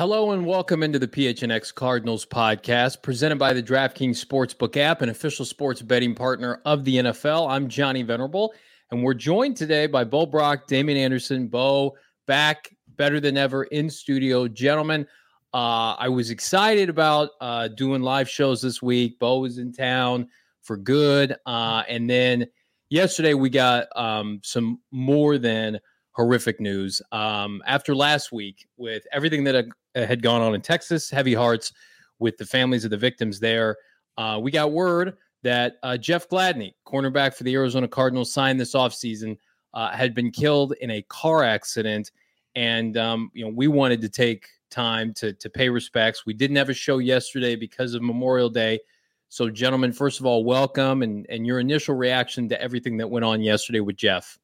Hello and welcome into the PHNX Cardinals podcast presented by the DraftKings Sportsbook app, an official sports betting partner of the NFL. I'm Johnny Venerable, and we're joined today by Bo Brock, Damian Anderson. Bo, back better than ever in studio. Gentlemen, I was excited about doing live shows this week. Bo was in town for good. And then yesterday we got some more than horrific news. After last week, with everything that had gone on in Texas, heavy hearts with the families of the victims there, we got word that Jeff Gladney, cornerback for the Arizona Cardinals, signed this offseason, had been killed in a car accident. And, we wanted to take time to pay respects. We didn't have a show yesterday because of Memorial Day. So, gentlemen, first of all, welcome and your initial reaction to everything that went on yesterday with Jeff.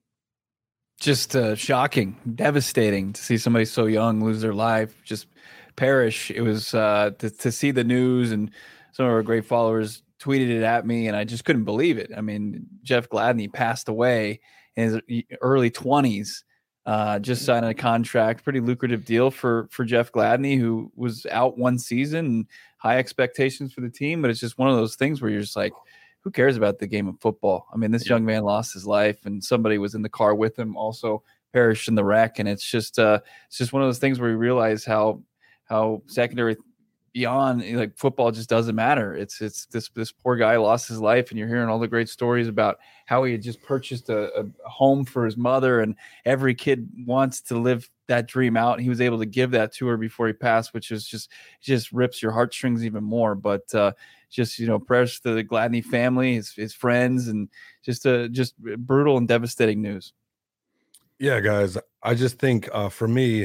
Just shocking, devastating to see somebody so young lose their life, just perish. It was to see the news, and some of our great followers tweeted it at me, and I just couldn't believe it. I mean, Jeff Gladney passed away in his early 20s, just signed a contract, pretty lucrative deal for Jeff Gladney, who was out one season, and high expectations for the team. But it's just one of those things where you're just like, who cares about the game of football? I mean, this young man lost his life, and somebody was in the car with him, also perished in the wreck. And it's just one of those things where you realize how secondary beyond, like, football just doesn't matter. It's this poor guy lost his life, and you're hearing all the great stories about how he had just purchased a home for his mother, and every kid wants to live that dream out. He was able to give that to her before he passed, which is just rips your heartstrings even more. But prayers to the Gladney family, his friends, and just brutal and devastating news. Yeah, guys, I just think for me,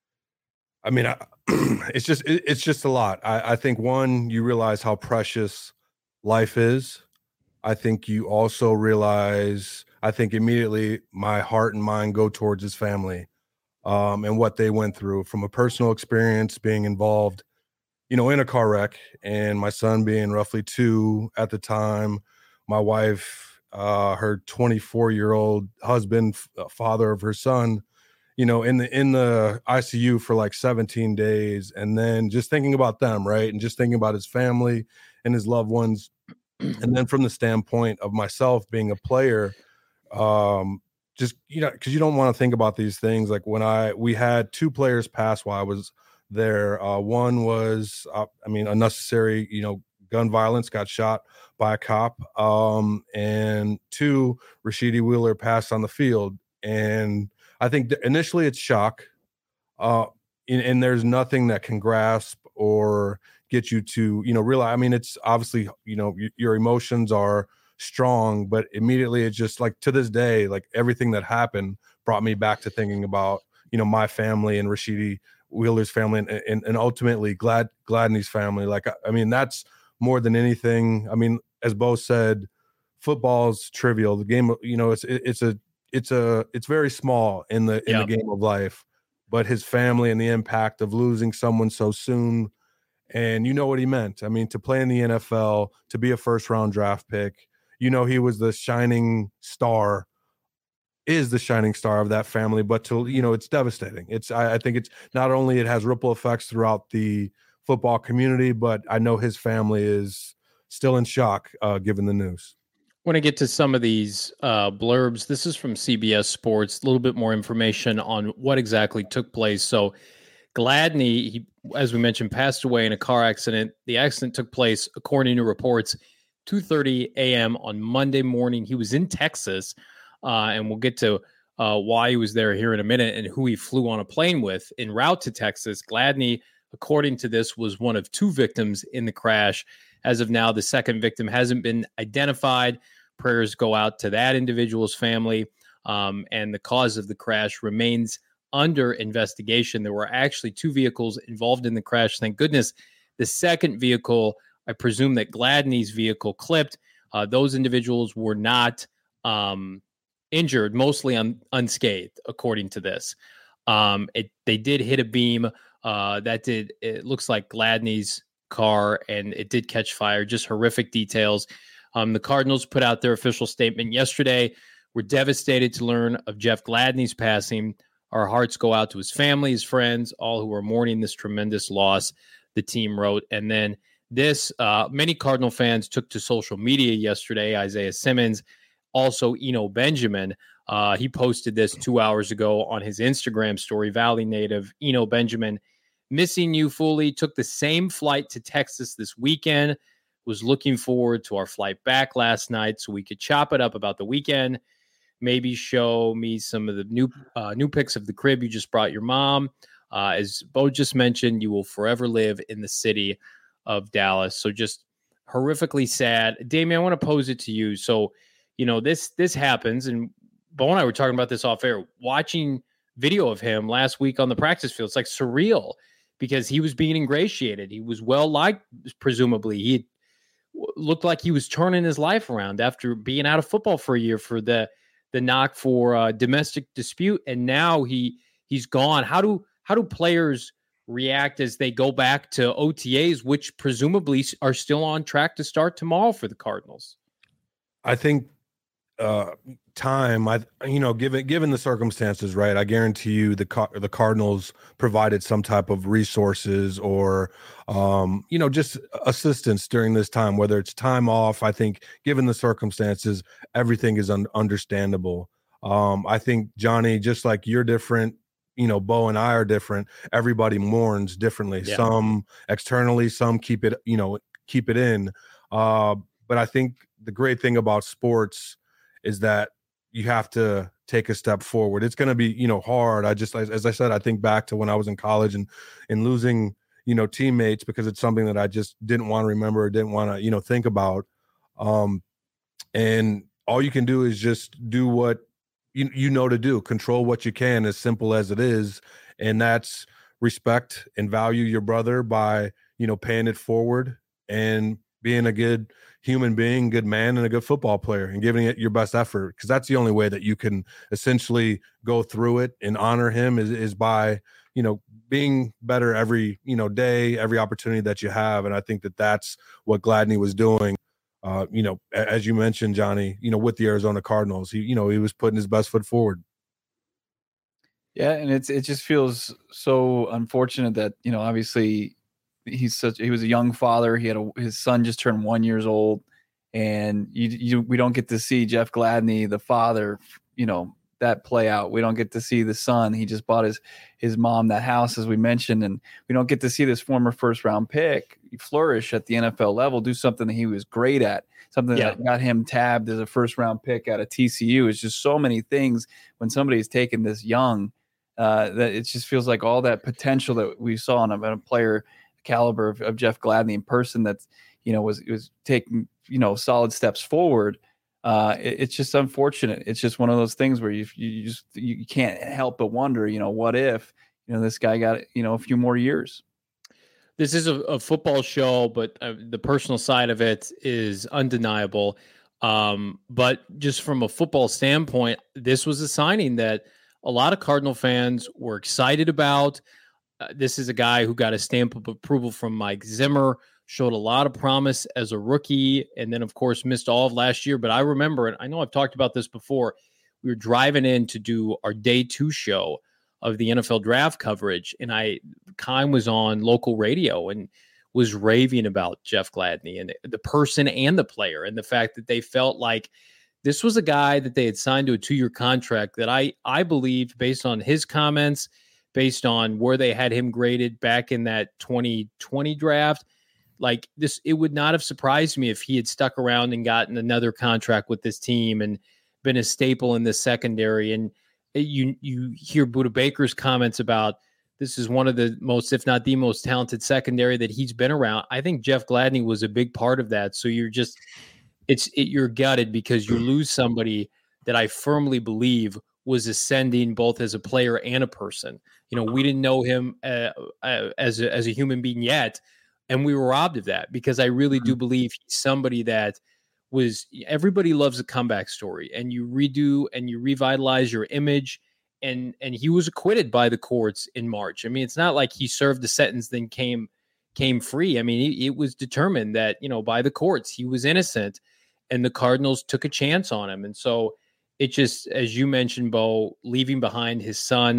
I mean, it's just a lot. I think, one, you realize how precious life is. I think you also realize, I think immediately my heart and mind go towards his family, and what they went through from a personal experience, being involved, in a car wreck, and my son being roughly 2 at the time, my wife, her 24-year-old husband, father of her son, in the ICU for like 17 days. And then just thinking about them, right? And just thinking about his family and his loved ones. And then from the standpoint of myself being a player, because you don't want to think about these things. Like we had 2 players pass while I was there. One was, unnecessary, gun violence, got shot by a cop. And 2, Rashidi Wheeler passed on the field. And I think initially it's shock. And there's nothing that can grasp or get you to, realize. I mean, it's obviously, your emotions are strong, but immediately it's just like, to this day, like, everything that happened brought me back to thinking about, my family and Rashidi Wheeler's family, and ultimately Gladney's family. Like, I mean, that's more than anything. I mean, as Bo said, football's trivial. The game, it's very small in the game of life, but his family and the impact of losing someone so soon, and what he meant. I mean, to play in the NFL, to be a first-round draft pick, he was the shining star. Is the shining star of that family, but it's devastating. I think it's not only, it has ripple effects throughout the football community, but I know his family is still in shock given the news. I want to get to some of these blurbs. This is from CBS Sports, a little bit more information on what exactly took place. So Gladney, he, as we mentioned, passed away in a car accident. The accident took place, according to reports, 2:30 a.m. on Monday morning. He was in Texas. And we'll get to why he was there here in a minute and who he flew on a plane with en route to Texas. Gladney, according to this, was one of 2 victims in the crash. As of now, the second victim hasn't been identified. Prayers go out to that individual's family. And the cause of the crash remains under investigation. There were actually 2 vehicles involved in the crash. Thank goodness. The second vehicle, I presume that Gladney's vehicle clipped. Those individuals were not injured, mostly unscathed, according to this. They did hit a beam. It looks like Gladney's car, and it did catch fire. Just horrific details. The Cardinals put out their official statement yesterday. We're devastated to learn of Jeff Gladney's passing. Our hearts go out to his family, his friends, all who are mourning this tremendous loss, the team wrote. And then this, many Cardinal fans took to social media yesterday. Isaiah Simmons, also Eno Benjamin. He posted this 2 hours ago on his Instagram story. Valley native Eno Benjamin, missing you fully. Took the same flight to Texas this weekend. Was looking forward to our flight back last night so we could chop it up about the weekend. Maybe show me some of the new pics of the crib you just brought your mom. As Bo just mentioned, you will forever live in the city of Dallas. So just horrifically sad. Damien, I want to pose it to you. So, this happens, and Bo and I were talking about this off air, watching video of him last week on the practice field. It's like surreal because he was being ingratiated. He was well liked, presumably. He looked like he was turning his life around after being out of football for a year for the knock for domestic dispute, and now he's gone. How do players react as they go back to OTAs, which presumably are still on track to start tomorrow for the Cardinals? I think time, given the circumstances, right? I guarantee you the Cardinals provided some type of resources or, just assistance during this time, whether it's time off. I think given the circumstances, everything is understandable. I think, Johnny, just like you're different, Bo and I are different. Everybody mourns differently. Yeah. Some externally, some keep it in. But I think the great thing about sports is that you have to take a step forward. It's going to be, hard. As I said, I think back to when I was in college and losing, teammates because it's something that I just didn't want to remember or didn't want to, think about. And all you can do is just do what to do, control what you can, as simple as it is. And that's respect and value your brother by, paying it forward and being a good human being, good man, and a good football player, and giving it your best effort, because that's the only way that you can essentially go through it and honor him is by, being better every, day, every opportunity that you have. And I think that that's what Gladney was doing, as you mentioned, Johnny, with the Arizona Cardinals. He was putting his best foot forward. Yeah, and it just feels so unfortunate that, obviously he was a young father. He had his son just turned 1 year old, and we don't get to see Jeff Gladney, the father, that play out. We don't get to see the son. He just bought his mom that house, as we mentioned, and we don't get to see this former first round pick flourish at the NFL level, do something that he was great at, something that got him tabbed as a first round pick out of TCU. It's just so many things when somebody's taken this young, that it just feels like all that potential that we saw in a player caliber of Jeff Gladney in person that's, was taking, solid steps forward. It's just unfortunate. It's just one of those things where you can't help but wonder, what if, this guy got, a few more years. This is a football show, but the personal side of it is undeniable. But just from a football standpoint, this was a signing that a lot of Cardinal fans were excited about. This is a guy who got a stamp of approval from Mike Zimmer, showed a lot of promise as a rookie, and then, of course, missed all of last year. But I remember, and I know I've talked about this before, we were driving in to do our day 2 show of the NFL draft coverage, and Kime was on local radio and was raving about Jeff Gladney and the person and the player, and the fact that they felt like this was a guy that they had signed to a 2-year contract that I believed, based on his comments, based on where they had him graded back in that 2020 draft, like this, it would not have surprised me if he had stuck around and gotten another contract with this team and been a staple in the secondary. And you hear Budda Baker's comments about this is one of the most, if not the most talented secondary that he's been around. I think Jeff Gladney was a big part of that. So you're just, you're gutted because you lose somebody that I firmly believe was ascending both as a player and a person. We didn't know him as a human being yet, and we were robbed of that, because I really do believe he's somebody that everybody loves a comeback story, and you redo and you revitalize your image. And he was acquitted by the courts in March. I mean, it's not like he served the sentence then came free. I mean, it was determined that, by the courts, he was innocent, and the Cardinals took a chance on him. And so it just, as you mentioned, Bo, leaving behind his son,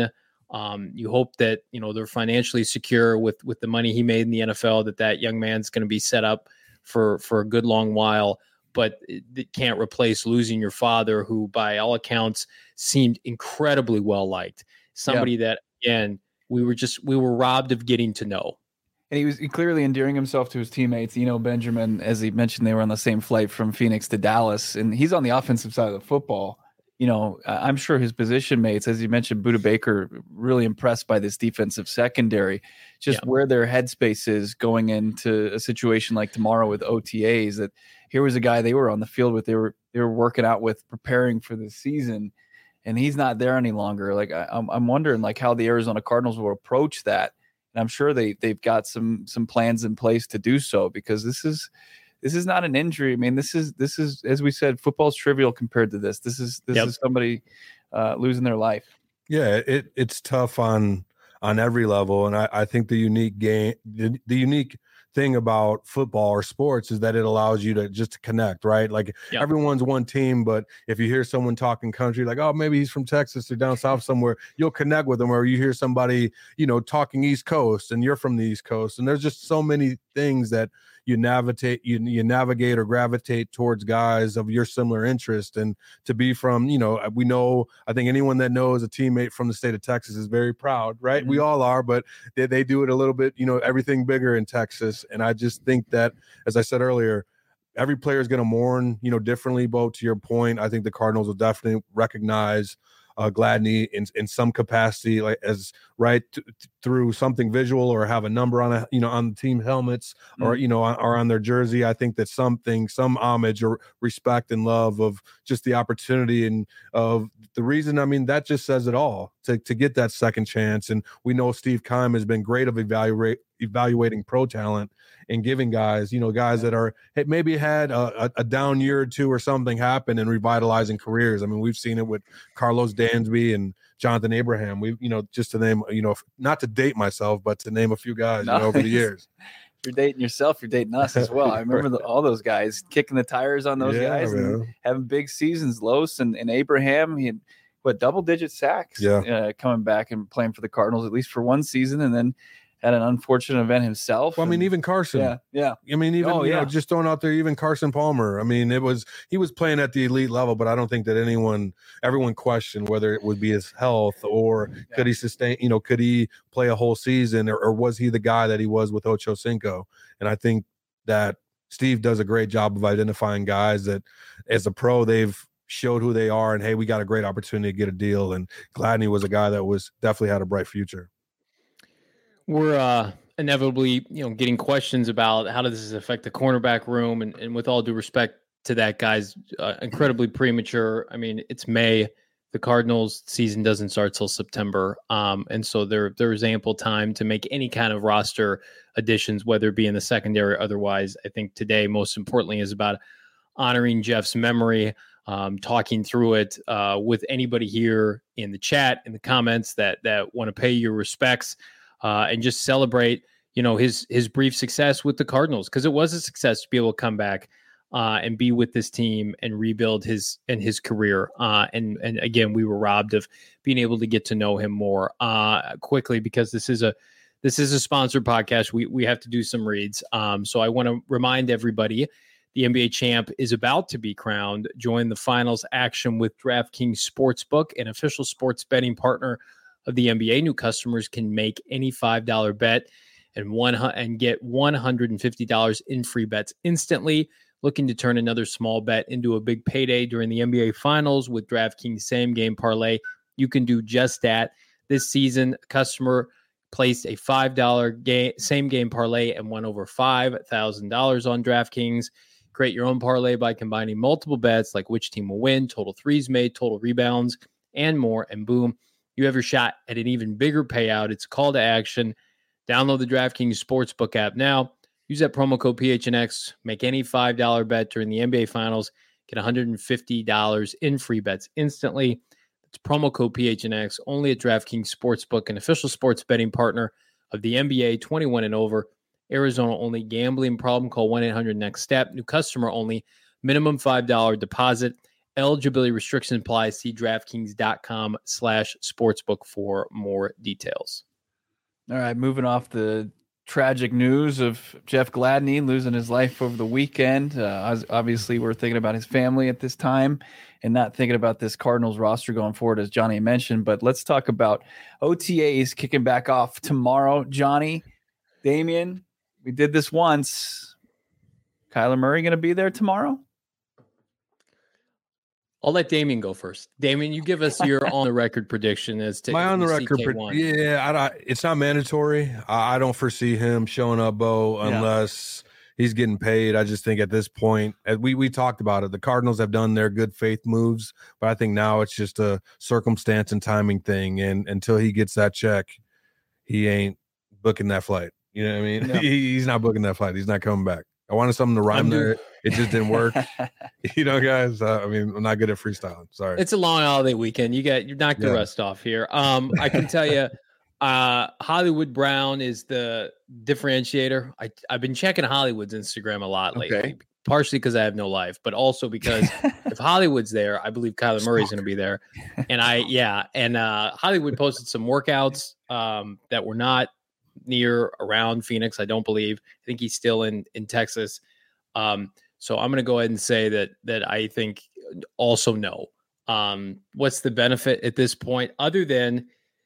You hope that, they're financially secure with the money he made in the NFL, that young man's going to be set up for a good long while, but it can't replace losing your father, who by all accounts seemed incredibly well liked. Somebody that, again, we were robbed of getting to know. And he was clearly endearing himself to his teammates. Benjamin, as he mentioned, they were on the same flight from Phoenix to Dallas, and he's on the offensive side of the football. I'm sure his position mates, as you mentioned, Budda Baker, really impressed by this defensive secondary, just where their headspace is going into a situation like tomorrow with OTAs. That here was a guy they were on the field with, they were working out with, preparing for the season, and he's not there any longer. Like I'm wondering like how the Arizona Cardinals will approach that, and I'm sure they've got some plans in place to do so, because this is not an injury. I mean, this is, as we said, football's trivial compared to this. This is somebody losing their life. Yeah, it's tough on every level. And I think the unique thing about football or sports is that it allows you to just connect, right? Like everyone's one team, but if you hear someone talking country, like, oh, maybe he's from Texas or down south somewhere, you'll connect with them. Or you hear somebody, talking East Coast and you're from the East Coast. And there's just so many things that you navigate or gravitate towards guys of your similar interest. And to be from, I think anyone that knows a teammate from the state of Texas is very proud, right? Mm-hmm. We all are, but they do it a little bit, everything bigger in Texas. And I just think that, as I said earlier, every player is going to mourn, differently. Bo, to your point, I think the Cardinals will definitely recognize Gladney in some capacity, like as through something visual, or have a number on on the team helmets, or or on their jersey. I think that some homage or respect and love of just the opportunity and of the reason. I mean, that just says it all to get that second chance. And we know Steve Keim has been great of evaluating pro talent and giving guys, guys that are maybe had a down year or two or something happen, and revitalizing careers. I mean, we've seen it with Carlos Dansby and Jonathan Abraham. We, just to name, not to date myself, but to name a few guys over the years. If you're dating yourself, you're dating us as well. I remember all those guys kicking the tires on those guys, and having big seasons. Los and Abraham, he had double-digit sacks coming back and playing for the Cardinals, at least for one season, and then had an unfortunate event himself. Well, I mean, even Carson. Yeah. I mean, even just throwing out there, even Carson Palmer. I mean, he was playing at the elite level, but I don't think that everyone questioned whether it would be his health or could he sustain, could he play a whole season, or was he the guy that he was with Ocho Cinco? And I think that Steve does a great job of identifying guys that, as a pro, they've showed who they are, and hey, we got a great opportunity to get a deal. And Gladney was a guy that was definitely had a bright future. We're inevitably, getting questions about how does this affect the cornerback room, and with all due respect to that, guys, incredibly premature. I mean, it's May. The Cardinals season doesn't start till September, and so there's ample time to make any kind of roster additions, whether it be in the secondary or otherwise. I think today, most importantly, is about honoring Jeff's memory, talking through it with anybody here in the chat, in the comments that want to pay your respects. And just celebrate, his brief success with the Cardinals, because it was a success to be able to come back and be with this team and rebuild his career. And again, we were robbed of being able to get to know him more quickly, because this is a sponsored podcast. We have to do some reads. So I want to remind everybody, the NBA champ is about to be crowned. Join the finals action with DraftKings Sportsbook, an official sports betting partner of the NBA. New customers can make any $5 bet and get $150 in free bets instantly. Looking to turn another small bet into a big payday during the NBA Finals with DraftKings Same Game Parlay? You can do just that. This season, a customer placed a $5 Same Game Parlay and won over $5,000 on DraftKings. Create your own parlay by combining multiple bets like which team will win, total threes made, total rebounds, and more. And boom, you have your shot at an even bigger payout. It's a call to action. Download the DraftKings Sportsbook app now. Use that promo code PHNX. Make any $5 bet during the NBA Finals. Get $150 in free bets instantly. It's promo code PHNX only at DraftKings Sportsbook, an official sports betting partner of the NBA, 21 and over. Arizona only. Gambling problem? Call 1-800-NEXT-STEP. New customer only. Minimum $5 deposit. Eligibility restrictions apply. See DraftKings.com/sportsbook for more details. All right, moving off the tragic news of Jeff Gladney losing his life over the weekend. Obviously, we're thinking about his family at this time and not thinking about this Cardinals roster going forward, as Johnny mentioned. But let's talk about OTAs kicking back off tomorrow. Johnny, Damian, we did this once. Kyler Murray going to be there tomorrow? I'll let Damian go first. Damian, you give us your on-the-record prediction as to my on-the-record. It's not mandatory. I don't foresee him showing up, Bo, unless he's getting paid. I just think at this point, we talked about it, the Cardinals have done their good faith moves, but I think now it's just a circumstance and timing thing. And until he gets that check, he ain't booking that flight. You know what I mean? Yeah. He's not booking that flight. He's not coming back. I wanted something to rhyme there. It just didn't work. Guys, I'm not good at freestyling. Sorry. It's a long holiday weekend. You knocked the rest off here. I can tell you, Hollywood Brown is the differentiator. I've been checking Hollywood's Instagram a lot lately, partially because I have no life, but also because if Hollywood's there, I believe Kyler Murray's going to be there. And Hollywood posted some workouts that were not around Phoenix. I don't believe. I think he's still in Texas. So I'm going to go ahead and say that I think also no. What's the benefit at this point other than,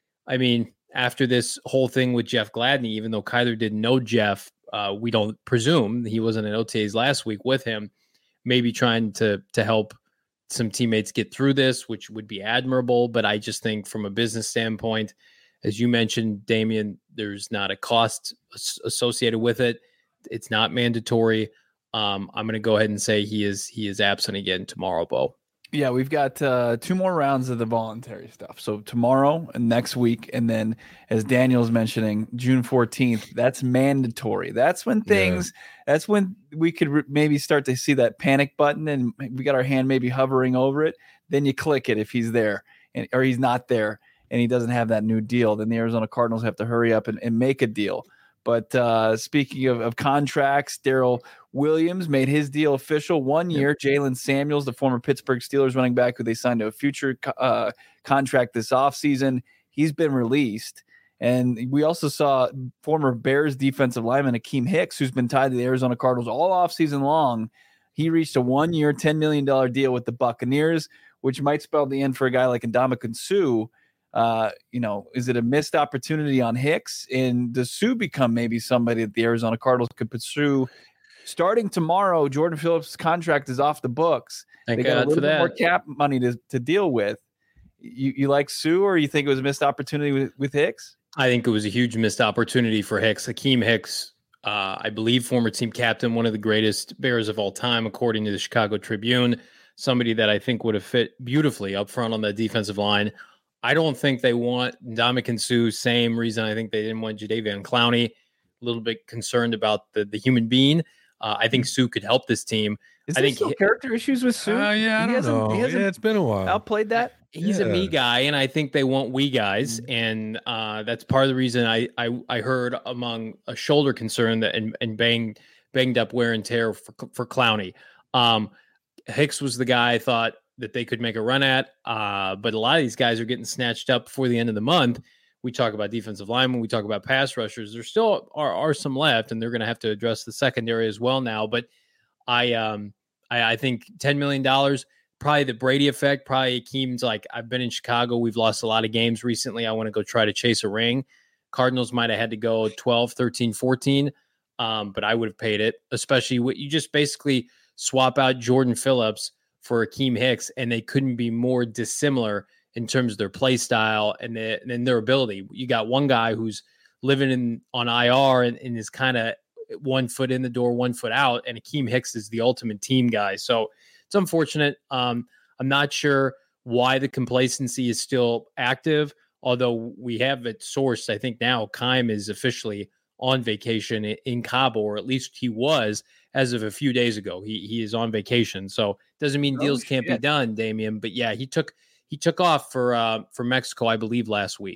after this whole thing with Jeff Gladney, even though Kyler didn't know Jeff, we don't presume he wasn't in OTAs last week with him, maybe trying to help some teammates get through this, which would be admirable. But I just think from a business standpoint, as you mentioned, Damian, there's not a cost associated with it. It's not mandatory. I'm going to go ahead and say he is absent again tomorrow, Bo. Yeah, we've got 2 more rounds of the voluntary stuff. So tomorrow and next week, and then as Daniel's mentioning, June 14th, that's mandatory. That's when that's when we could maybe start to see that panic button, and we got our hand maybe hovering over it. Then you click it if he's there or he's not there, and he doesn't have that new deal. Then the Arizona Cardinals have to hurry up and make a deal. But speaking of contracts, Darrell Williams made his deal official. 1 year. Jalen Samuels, the former Pittsburgh Steelers running back who they signed to a future contract this offseason, he's been released. And we also saw former Bears defensive lineman Akeem Hicks, who's been tied to the Arizona Cardinals all offseason long. He reached a 1 year, $10 million deal with the Buccaneers, which might spell the end for a guy like Ndamukong Suh. Is it a missed opportunity on Hicks? And does Suh become maybe somebody that the Arizona Cardinals could pursue? Starting tomorrow, Jordan Phillips' contract is off the books. They got a little bit more cap money to deal with. You like Suh, or you think it was a missed opportunity with Hicks? I think it was a huge missed opportunity for Hicks. Akeem Hicks, I believe former team captain, one of the greatest Bears of all time, according to the Chicago Tribune, somebody that I think would have fit beautifully up front on the defensive line. I don't think they want Ndamukong Suh. Same reason I think they didn't want Jadeveon Clowney. A little bit concerned about the human being. I think Suh could help this team. I think still character issues with Suh. I don't know. It's been a while. Outplayed that. He's a me guy, and I think they want we guys, and that's part of the reason I heard among a shoulder concern that and banged up wear and tear for Clowney. Hicks was the guy I thought that they could make a run at, but a lot of these guys are getting snatched up before the end of the month. We talk about defensive linemen, we talk about pass rushers. There still are some left, and they're going to have to address the secondary as well now. But I think $10 million, probably the Brady effect. Probably Akeem's like, I've been in Chicago. We've lost a lot of games recently. I want to go try to chase a ring. Cardinals might have had to go 12, 13, 14, but I would have paid it, especially what you just basically swap out Jordan Phillips for Akeem Hicks, and they couldn't be more dissimilar in terms of their play style and their ability. You got one guy who's living on IR and is kind of 1 foot in the door, 1 foot out, and Akeem Hicks is the ultimate team guy. So it's unfortunate. I'm not sure why the complacency is still active, although we have it sourced. I think now Keim is officially on vacation in Cabo, or at least he was as of a few days ago. He is on vacation. So doesn't mean deals can't be done, Damian. But yeah, he took off for Mexico, I believe, last week.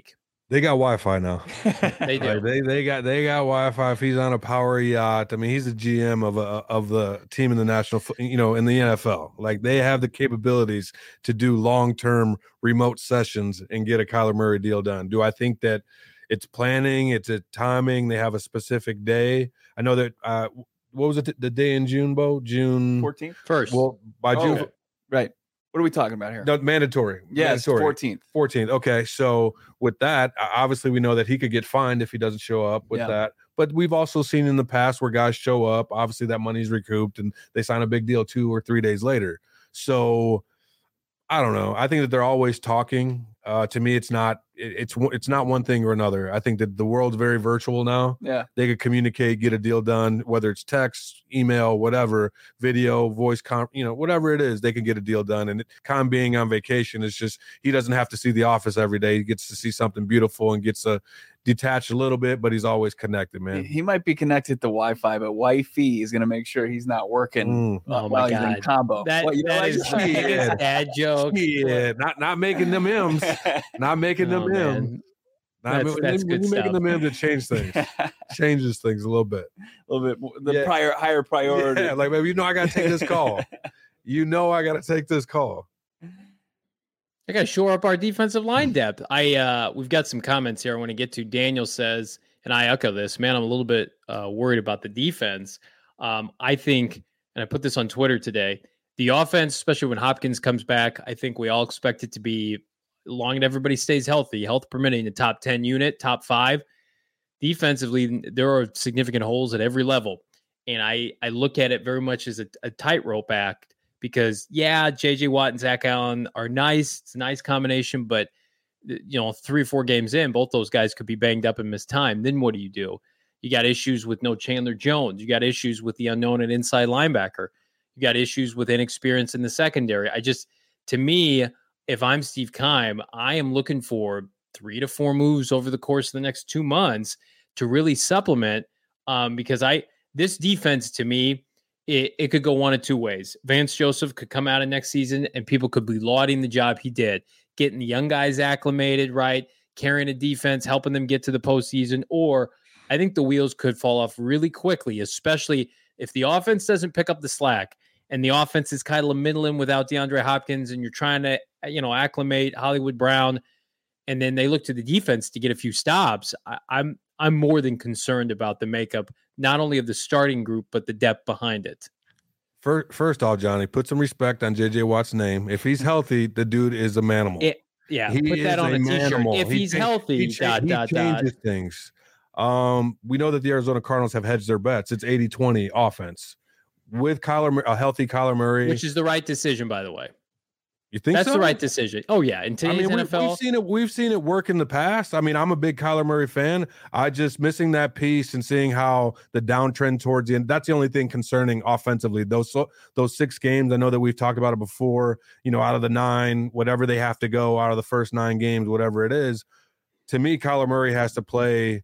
They got Wi-Fi now. They do. They got Wi-Fi. If he's on a power yacht, I mean, he's the GM of the team in the in the NFL. Like, they have the capabilities to do long-term remote sessions and get a Kyler Murray deal done. Do I think that it's planning? It's a timing. They have a specific day. I know that. What was it? The day in June, Bo? June 14th. First. Well, by June. Okay. Right. What are we talking about here? No, mandatory. Yes, mandatory. 14th. 14th. Okay. So with that, obviously we know that he could get fined if he doesn't show up with that. But we've also seen in the past where guys show up, obviously that money's recouped and they sign a big deal 2 or 3 days later. So I don't know. I think that they're always talking. To me, it's not one thing or another. I think that the world's very virtual now. Yeah. They could communicate, get a deal done, whether it's text, email, whatever, video, voice, whatever it is, they can get a deal done. And Khan being on vacation is just, he doesn't have to see the office every day. He gets to see something beautiful and gets to detach a little bit, but he's always connected, man. He might be connected to Wi-Fi, but wifey is going to make sure he's not working while he's in combo. That is a dad joke. Yeah, not making them M's. Not making them M's. That's good stuff. Making them M's, it changes things a little bit. A little bit. Higher priority. Yeah, like, baby, I got to take this call. I got to take this call. I got to shore up our defensive line depth. We've got some comments here I want to get to. Daniel says, and I echo this, man, I'm a little bit worried about the defense. I think, and I put this on Twitter today, the offense, especially when Hopkins comes back, I think we all expect it to be, long as everybody stays healthy, health permitting, the top 10 unit, top 5. Defensively, there are significant holes at every level. And I look at it very much as a tightrope act. Because, J.J. Watt and Zach Allen are nice. It's a nice combination. But, 3 or 4 games in, both those guys could be banged up and miss time. Then what do? You got issues with no Chandler Jones. You got issues with the unknown at inside linebacker. You got issues with inexperience in the secondary. To me, if I'm Steve Keim, I am looking for 3 to 4 moves over the course of the next 2 months to really supplement. Because this defense, to me, it could go one of 2 ways. Vance Joseph could come out of next season and people could be lauding the job he did, getting the young guys acclimated, right? Carrying a defense, helping them get to the postseason. Or I think the wheels could fall off really quickly, especially if the offense doesn't pick up the slack and the offense is kind of middling without DeAndre Hopkins and you're trying to, acclimate Hollywood Brown. And then they look to the defense to get a few stops. I'm more than concerned about the makeup, not only of the starting group, but the depth behind it. First off, Johnny, put some respect on J.J. Watt's name. If he's healthy, the dude is a manimal. Put that on a T-shirt. If he's healthy, he changes things. We know that the Arizona Cardinals have hedged their bets. It's 80-20 offense. With a healthy Kyler Murray. Which is the right decision, by the way. You think that's the right decision? Oh yeah, in today's NFL, we've seen it work in the past. I mean, I'm a big Kyler Murray fan. I just missing that piece and seeing how the downtrend towards the end. That's the only thing concerning offensively. Those 6 games, I know that we've talked about it before. Out of the 9, whatever they have to go out of the first 9 games, whatever it is. To me, Kyler Murray has to play.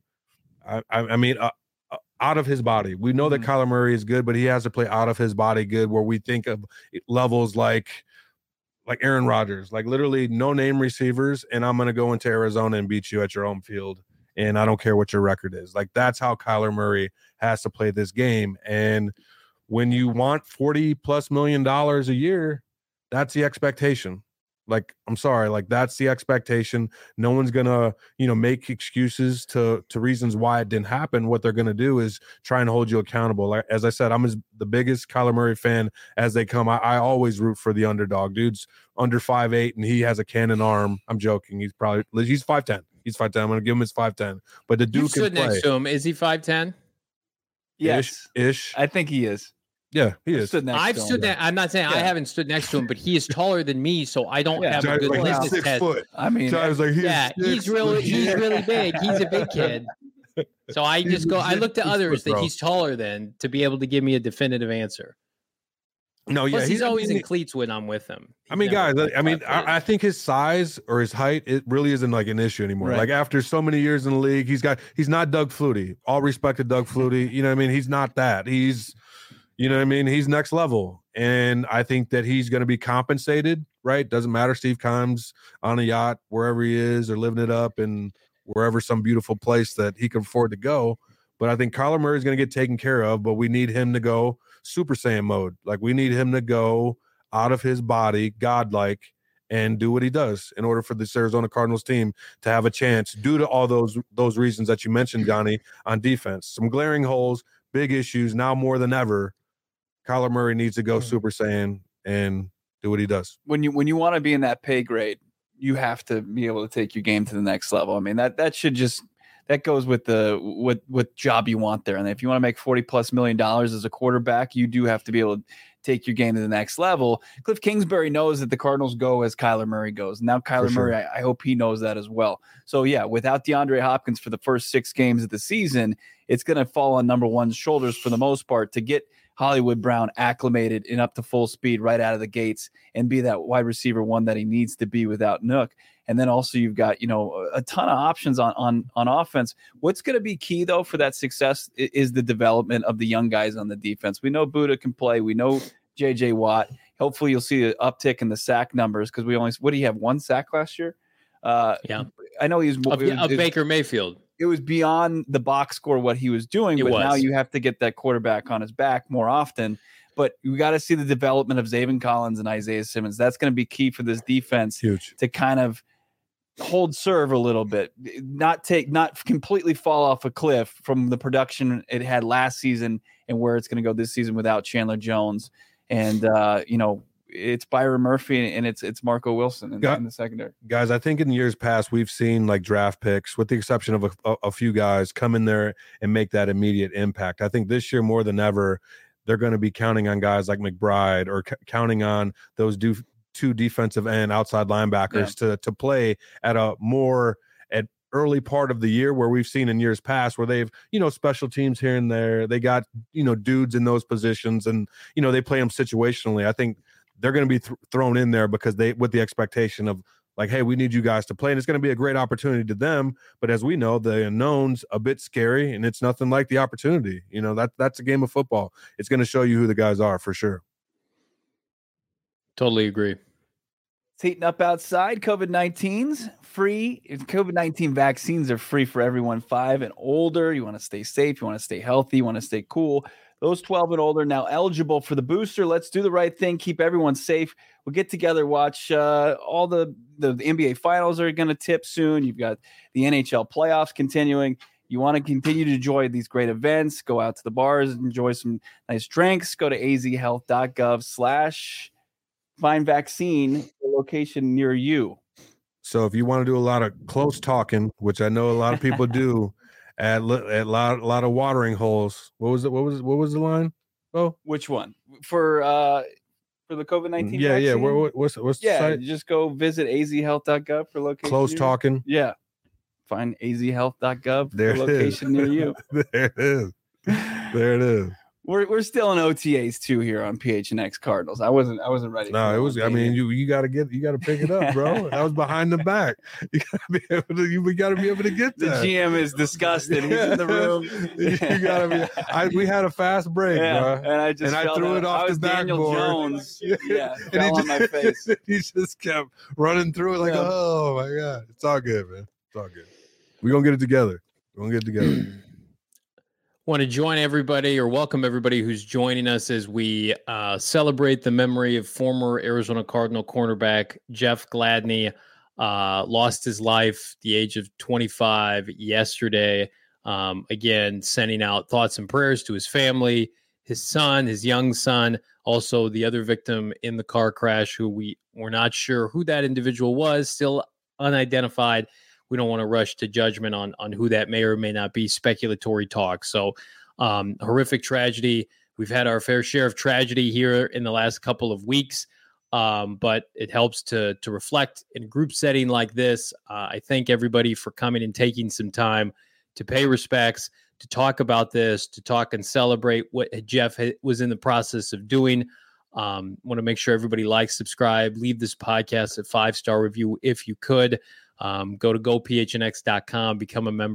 Out of his body. We know that Kyler Murray is good, but he has to play out of his body good. Where we think of levels like Aaron Rodgers, like literally no name receivers, and I'm going to go into Arizona and beat you at your home field, and I don't care what your record is. Like, that's how Kyler Murray has to play this game. And when you want $40+ million a year, that's the expectation. Like, I'm sorry, like that's the expectation. No one's gonna, make excuses to reasons why it didn't happen. What they're gonna do is try and hold you accountable. Like, as I said, I'm the biggest Kyler Murray fan as they come. I always root for the underdog. Dude's under 5'8" and he has a cannon arm. I'm joking. He's 5'10". He's 5'10". I'm gonna give him his 5'10". But the dude can play. Next to him. Is he 5'10"? Yes, ish. I think he is. Yeah, he is. I've stood next. I'm not saying I haven't stood next to him, but he is taller than me, so I don't have a good litmus test. I mean, he's really big. He's a big kid. So I just go. I look to others that he's taller than to be able to give me a definitive answer. No, Plus, he's always in cleats when I'm with him. I think his size or his height, it really isn't like an issue anymore. Right. Like, after so many years in the league, he's not Doug Flutie. All respect to Doug Flutie. He's not that. He's next level. And I think that he's going to be compensated, right? Doesn't matter. Steve Keim's on a yacht, wherever he is, or living it up in wherever, some beautiful place that he can afford to go. But I think Kyler Murray is going to get taken care of, but we need him to go Super Saiyan mode. Like, we need him to go out of his body, godlike, and do what he does in order for this Arizona Cardinals team to have a chance due to all those reasons that you mentioned, Johnny, on defense. Some glaring holes, big issues. Now more than ever, Kyler Murray needs to go Super Saiyan and do what he does. When you want to be in that pay grade, you have to be able to take your game to the next level. I mean, that goes with what job you want there. And if you want to make $40+ million as a quarterback, you do have to be able to take your game to the next level. Cliff Kingsbury knows that the Cardinals go as Kyler Murray goes. Now Kyler Murray, I hope he knows that as well. So yeah, without DeAndre Hopkins for the first 6 games of the season, it's going to fall on number one's shoulders for the most part to get Hollywood Brown acclimated and up to full speed right out of the gates and be that wide receiver one that he needs to be without Nook. And then also you've got, a ton of options on offense. What's going to be key, though, for that success is the development of the young guys on the defense. We know Buddha can play. We know J.J. Watt. Hopefully you'll see an uptick in the sack numbers because what do you have, 1 sack last year? Yeah. I know he's Baker Mayfield. It was beyond the box score what he was doing, but now you have to get that quarterback on his back more often. But you got to see the development of Zaven Collins and Isaiah Simmons. That's going to be key for this defense. Huge. To kind of hold serve a little bit, not completely fall off a cliff from the production it had last season and where it's going to go this season without Chandler Jones. And, it's Byron Murphy and it's Marco Wilson in the secondary. Guys, I think in years past, we've seen like draft picks, with the exception of a few guys, come in there and make that immediate impact. I think this year more than ever, they're going to be counting on guys like McBride or counting on those two defensive end outside linebackers to play at a more at early part of the year, where we've seen in years past where they've, special teams here and there. They got, dudes in those positions and, they play them situationally. I think they're going to be thrown in there because with the expectation of like, hey, we need you guys to play. And it's going to be a great opportunity to them. But as we know, the unknown's a bit scary and it's nothing like the opportunity. That's a game of football. It's going to show you who the guys are for sure. Totally agree. It's heating up outside. COVID-19's free. COVID-19 vaccines are free for everyone 5 and older. You want to stay safe. You want to stay healthy. You want to stay cool. Those 12 and older now eligible for the booster. Let's do the right thing. Keep everyone safe. We'll get together, watch all the NBA finals are going to tip soon. You've got the NHL playoffs continuing. You want to continue to enjoy these great events. Go out to the bars, enjoy some nice drinks. Go to azhealth.gov/find vaccine location near you. So if you want to do a lot of close talking, which I know a lot of people do, at a lot of watering holes. What was the line? Oh, which one for the COVID-19? Yeah, vaccine? yeah. What's the site? Just go visit azhealth.gov for location. Close talking. Yeah, find azhealth.gov there for location near you. There it is. There it is. We're still in OTAs too here on PHNX Cardinals. I wasn't ready. No, it was. I mean, you got to pick it up, bro. That was behind the back. We got to be able to get that. The GM is disgusted. He's in the room. You got to be. We had a fast break, bro, and I threw it off the backboard. Jones, fell on my face. He just kept running through it like, oh my god, it's all good, man. It's all good. We're gonna get it together. Want to join everybody or welcome everybody who's joining us as we celebrate the memory of former Arizona Cardinal cornerback Jeff Gladney. Lost his life at the age of 25 yesterday. Again, sending out thoughts and prayers to his family, his son, his young son, also the other victim in the car crash who we're not sure who that individual was, still unidentified. We don't want to rush to judgment on who that may or may not be, speculatory talk. So horrific tragedy. We've had our fair share of tragedy here in the last couple of weeks, but it helps to reflect in a group setting like this. I thank everybody for coming and taking some time to pay respects, to talk about this, to talk and celebrate what Jeff was in the process of doing. Want to make sure everybody likes, subscribe, leave this podcast a 5-star review if you could. Go to gophnx.com, become a member,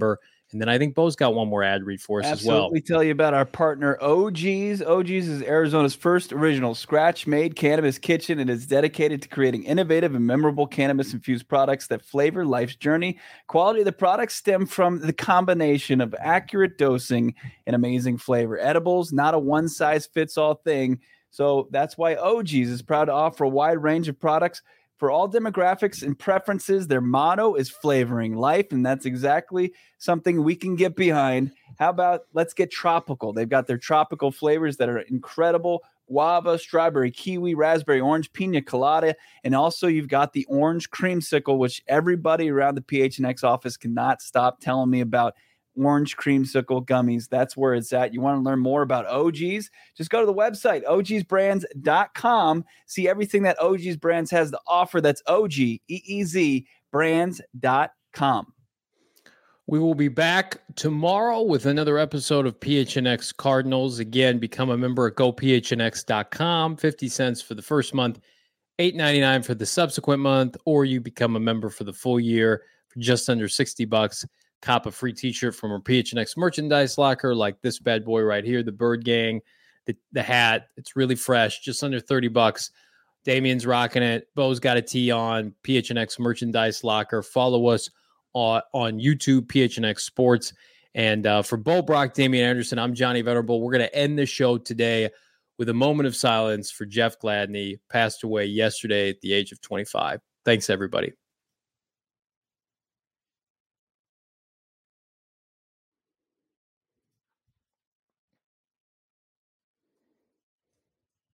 And then I think Bo's got one more ad read for us as well. Absolutely. Tell you about our partner, OG's. OG's is Arizona's first original scratch-made cannabis kitchen and is dedicated to creating innovative and memorable cannabis-infused products that flavor life's journey. Quality of the products stem from the combination of accurate dosing and amazing flavor. Edibles, not a one-size-fits-all thing. So that's why OG's is proud to offer a wide range of products for all demographics and preferences. Their motto is flavoring life, and that's exactly something we can get behind. How about let's get tropical? They've got their tropical flavors that are incredible: guava, strawberry, kiwi, raspberry, orange, pina colada, and also you've got the orange creamsicle, which everybody around the PHNX office cannot stop telling me about. Orange creamsicle gummies. That's where it's at. You want to learn more about OG's? Just go to the website, ogsbrands.com. See everything that OG's Brands has to offer. That's OGEEZ brands.com. We will be back tomorrow with another episode of PHNX Cardinals. Again, become a member at gophnx.com. 50 cents for the first month, $8.99 for the subsequent month, or you become a member for the full year for just under $60. Cop a free t-shirt from our PHNX merchandise locker, like this bad boy right here, the Bird Gang, the hat. It's really fresh, just under $30. Damien's rocking it. Bo's got a tee on. PHNX merchandise locker. Follow us on YouTube, PHNX Sports. And for Bo Brock, Damien Anderson, I'm Johnny Venerable. We're going to end the show today with a moment of silence for Jeff Gladney, passed away yesterday at the age of 25. Thanks, everybody.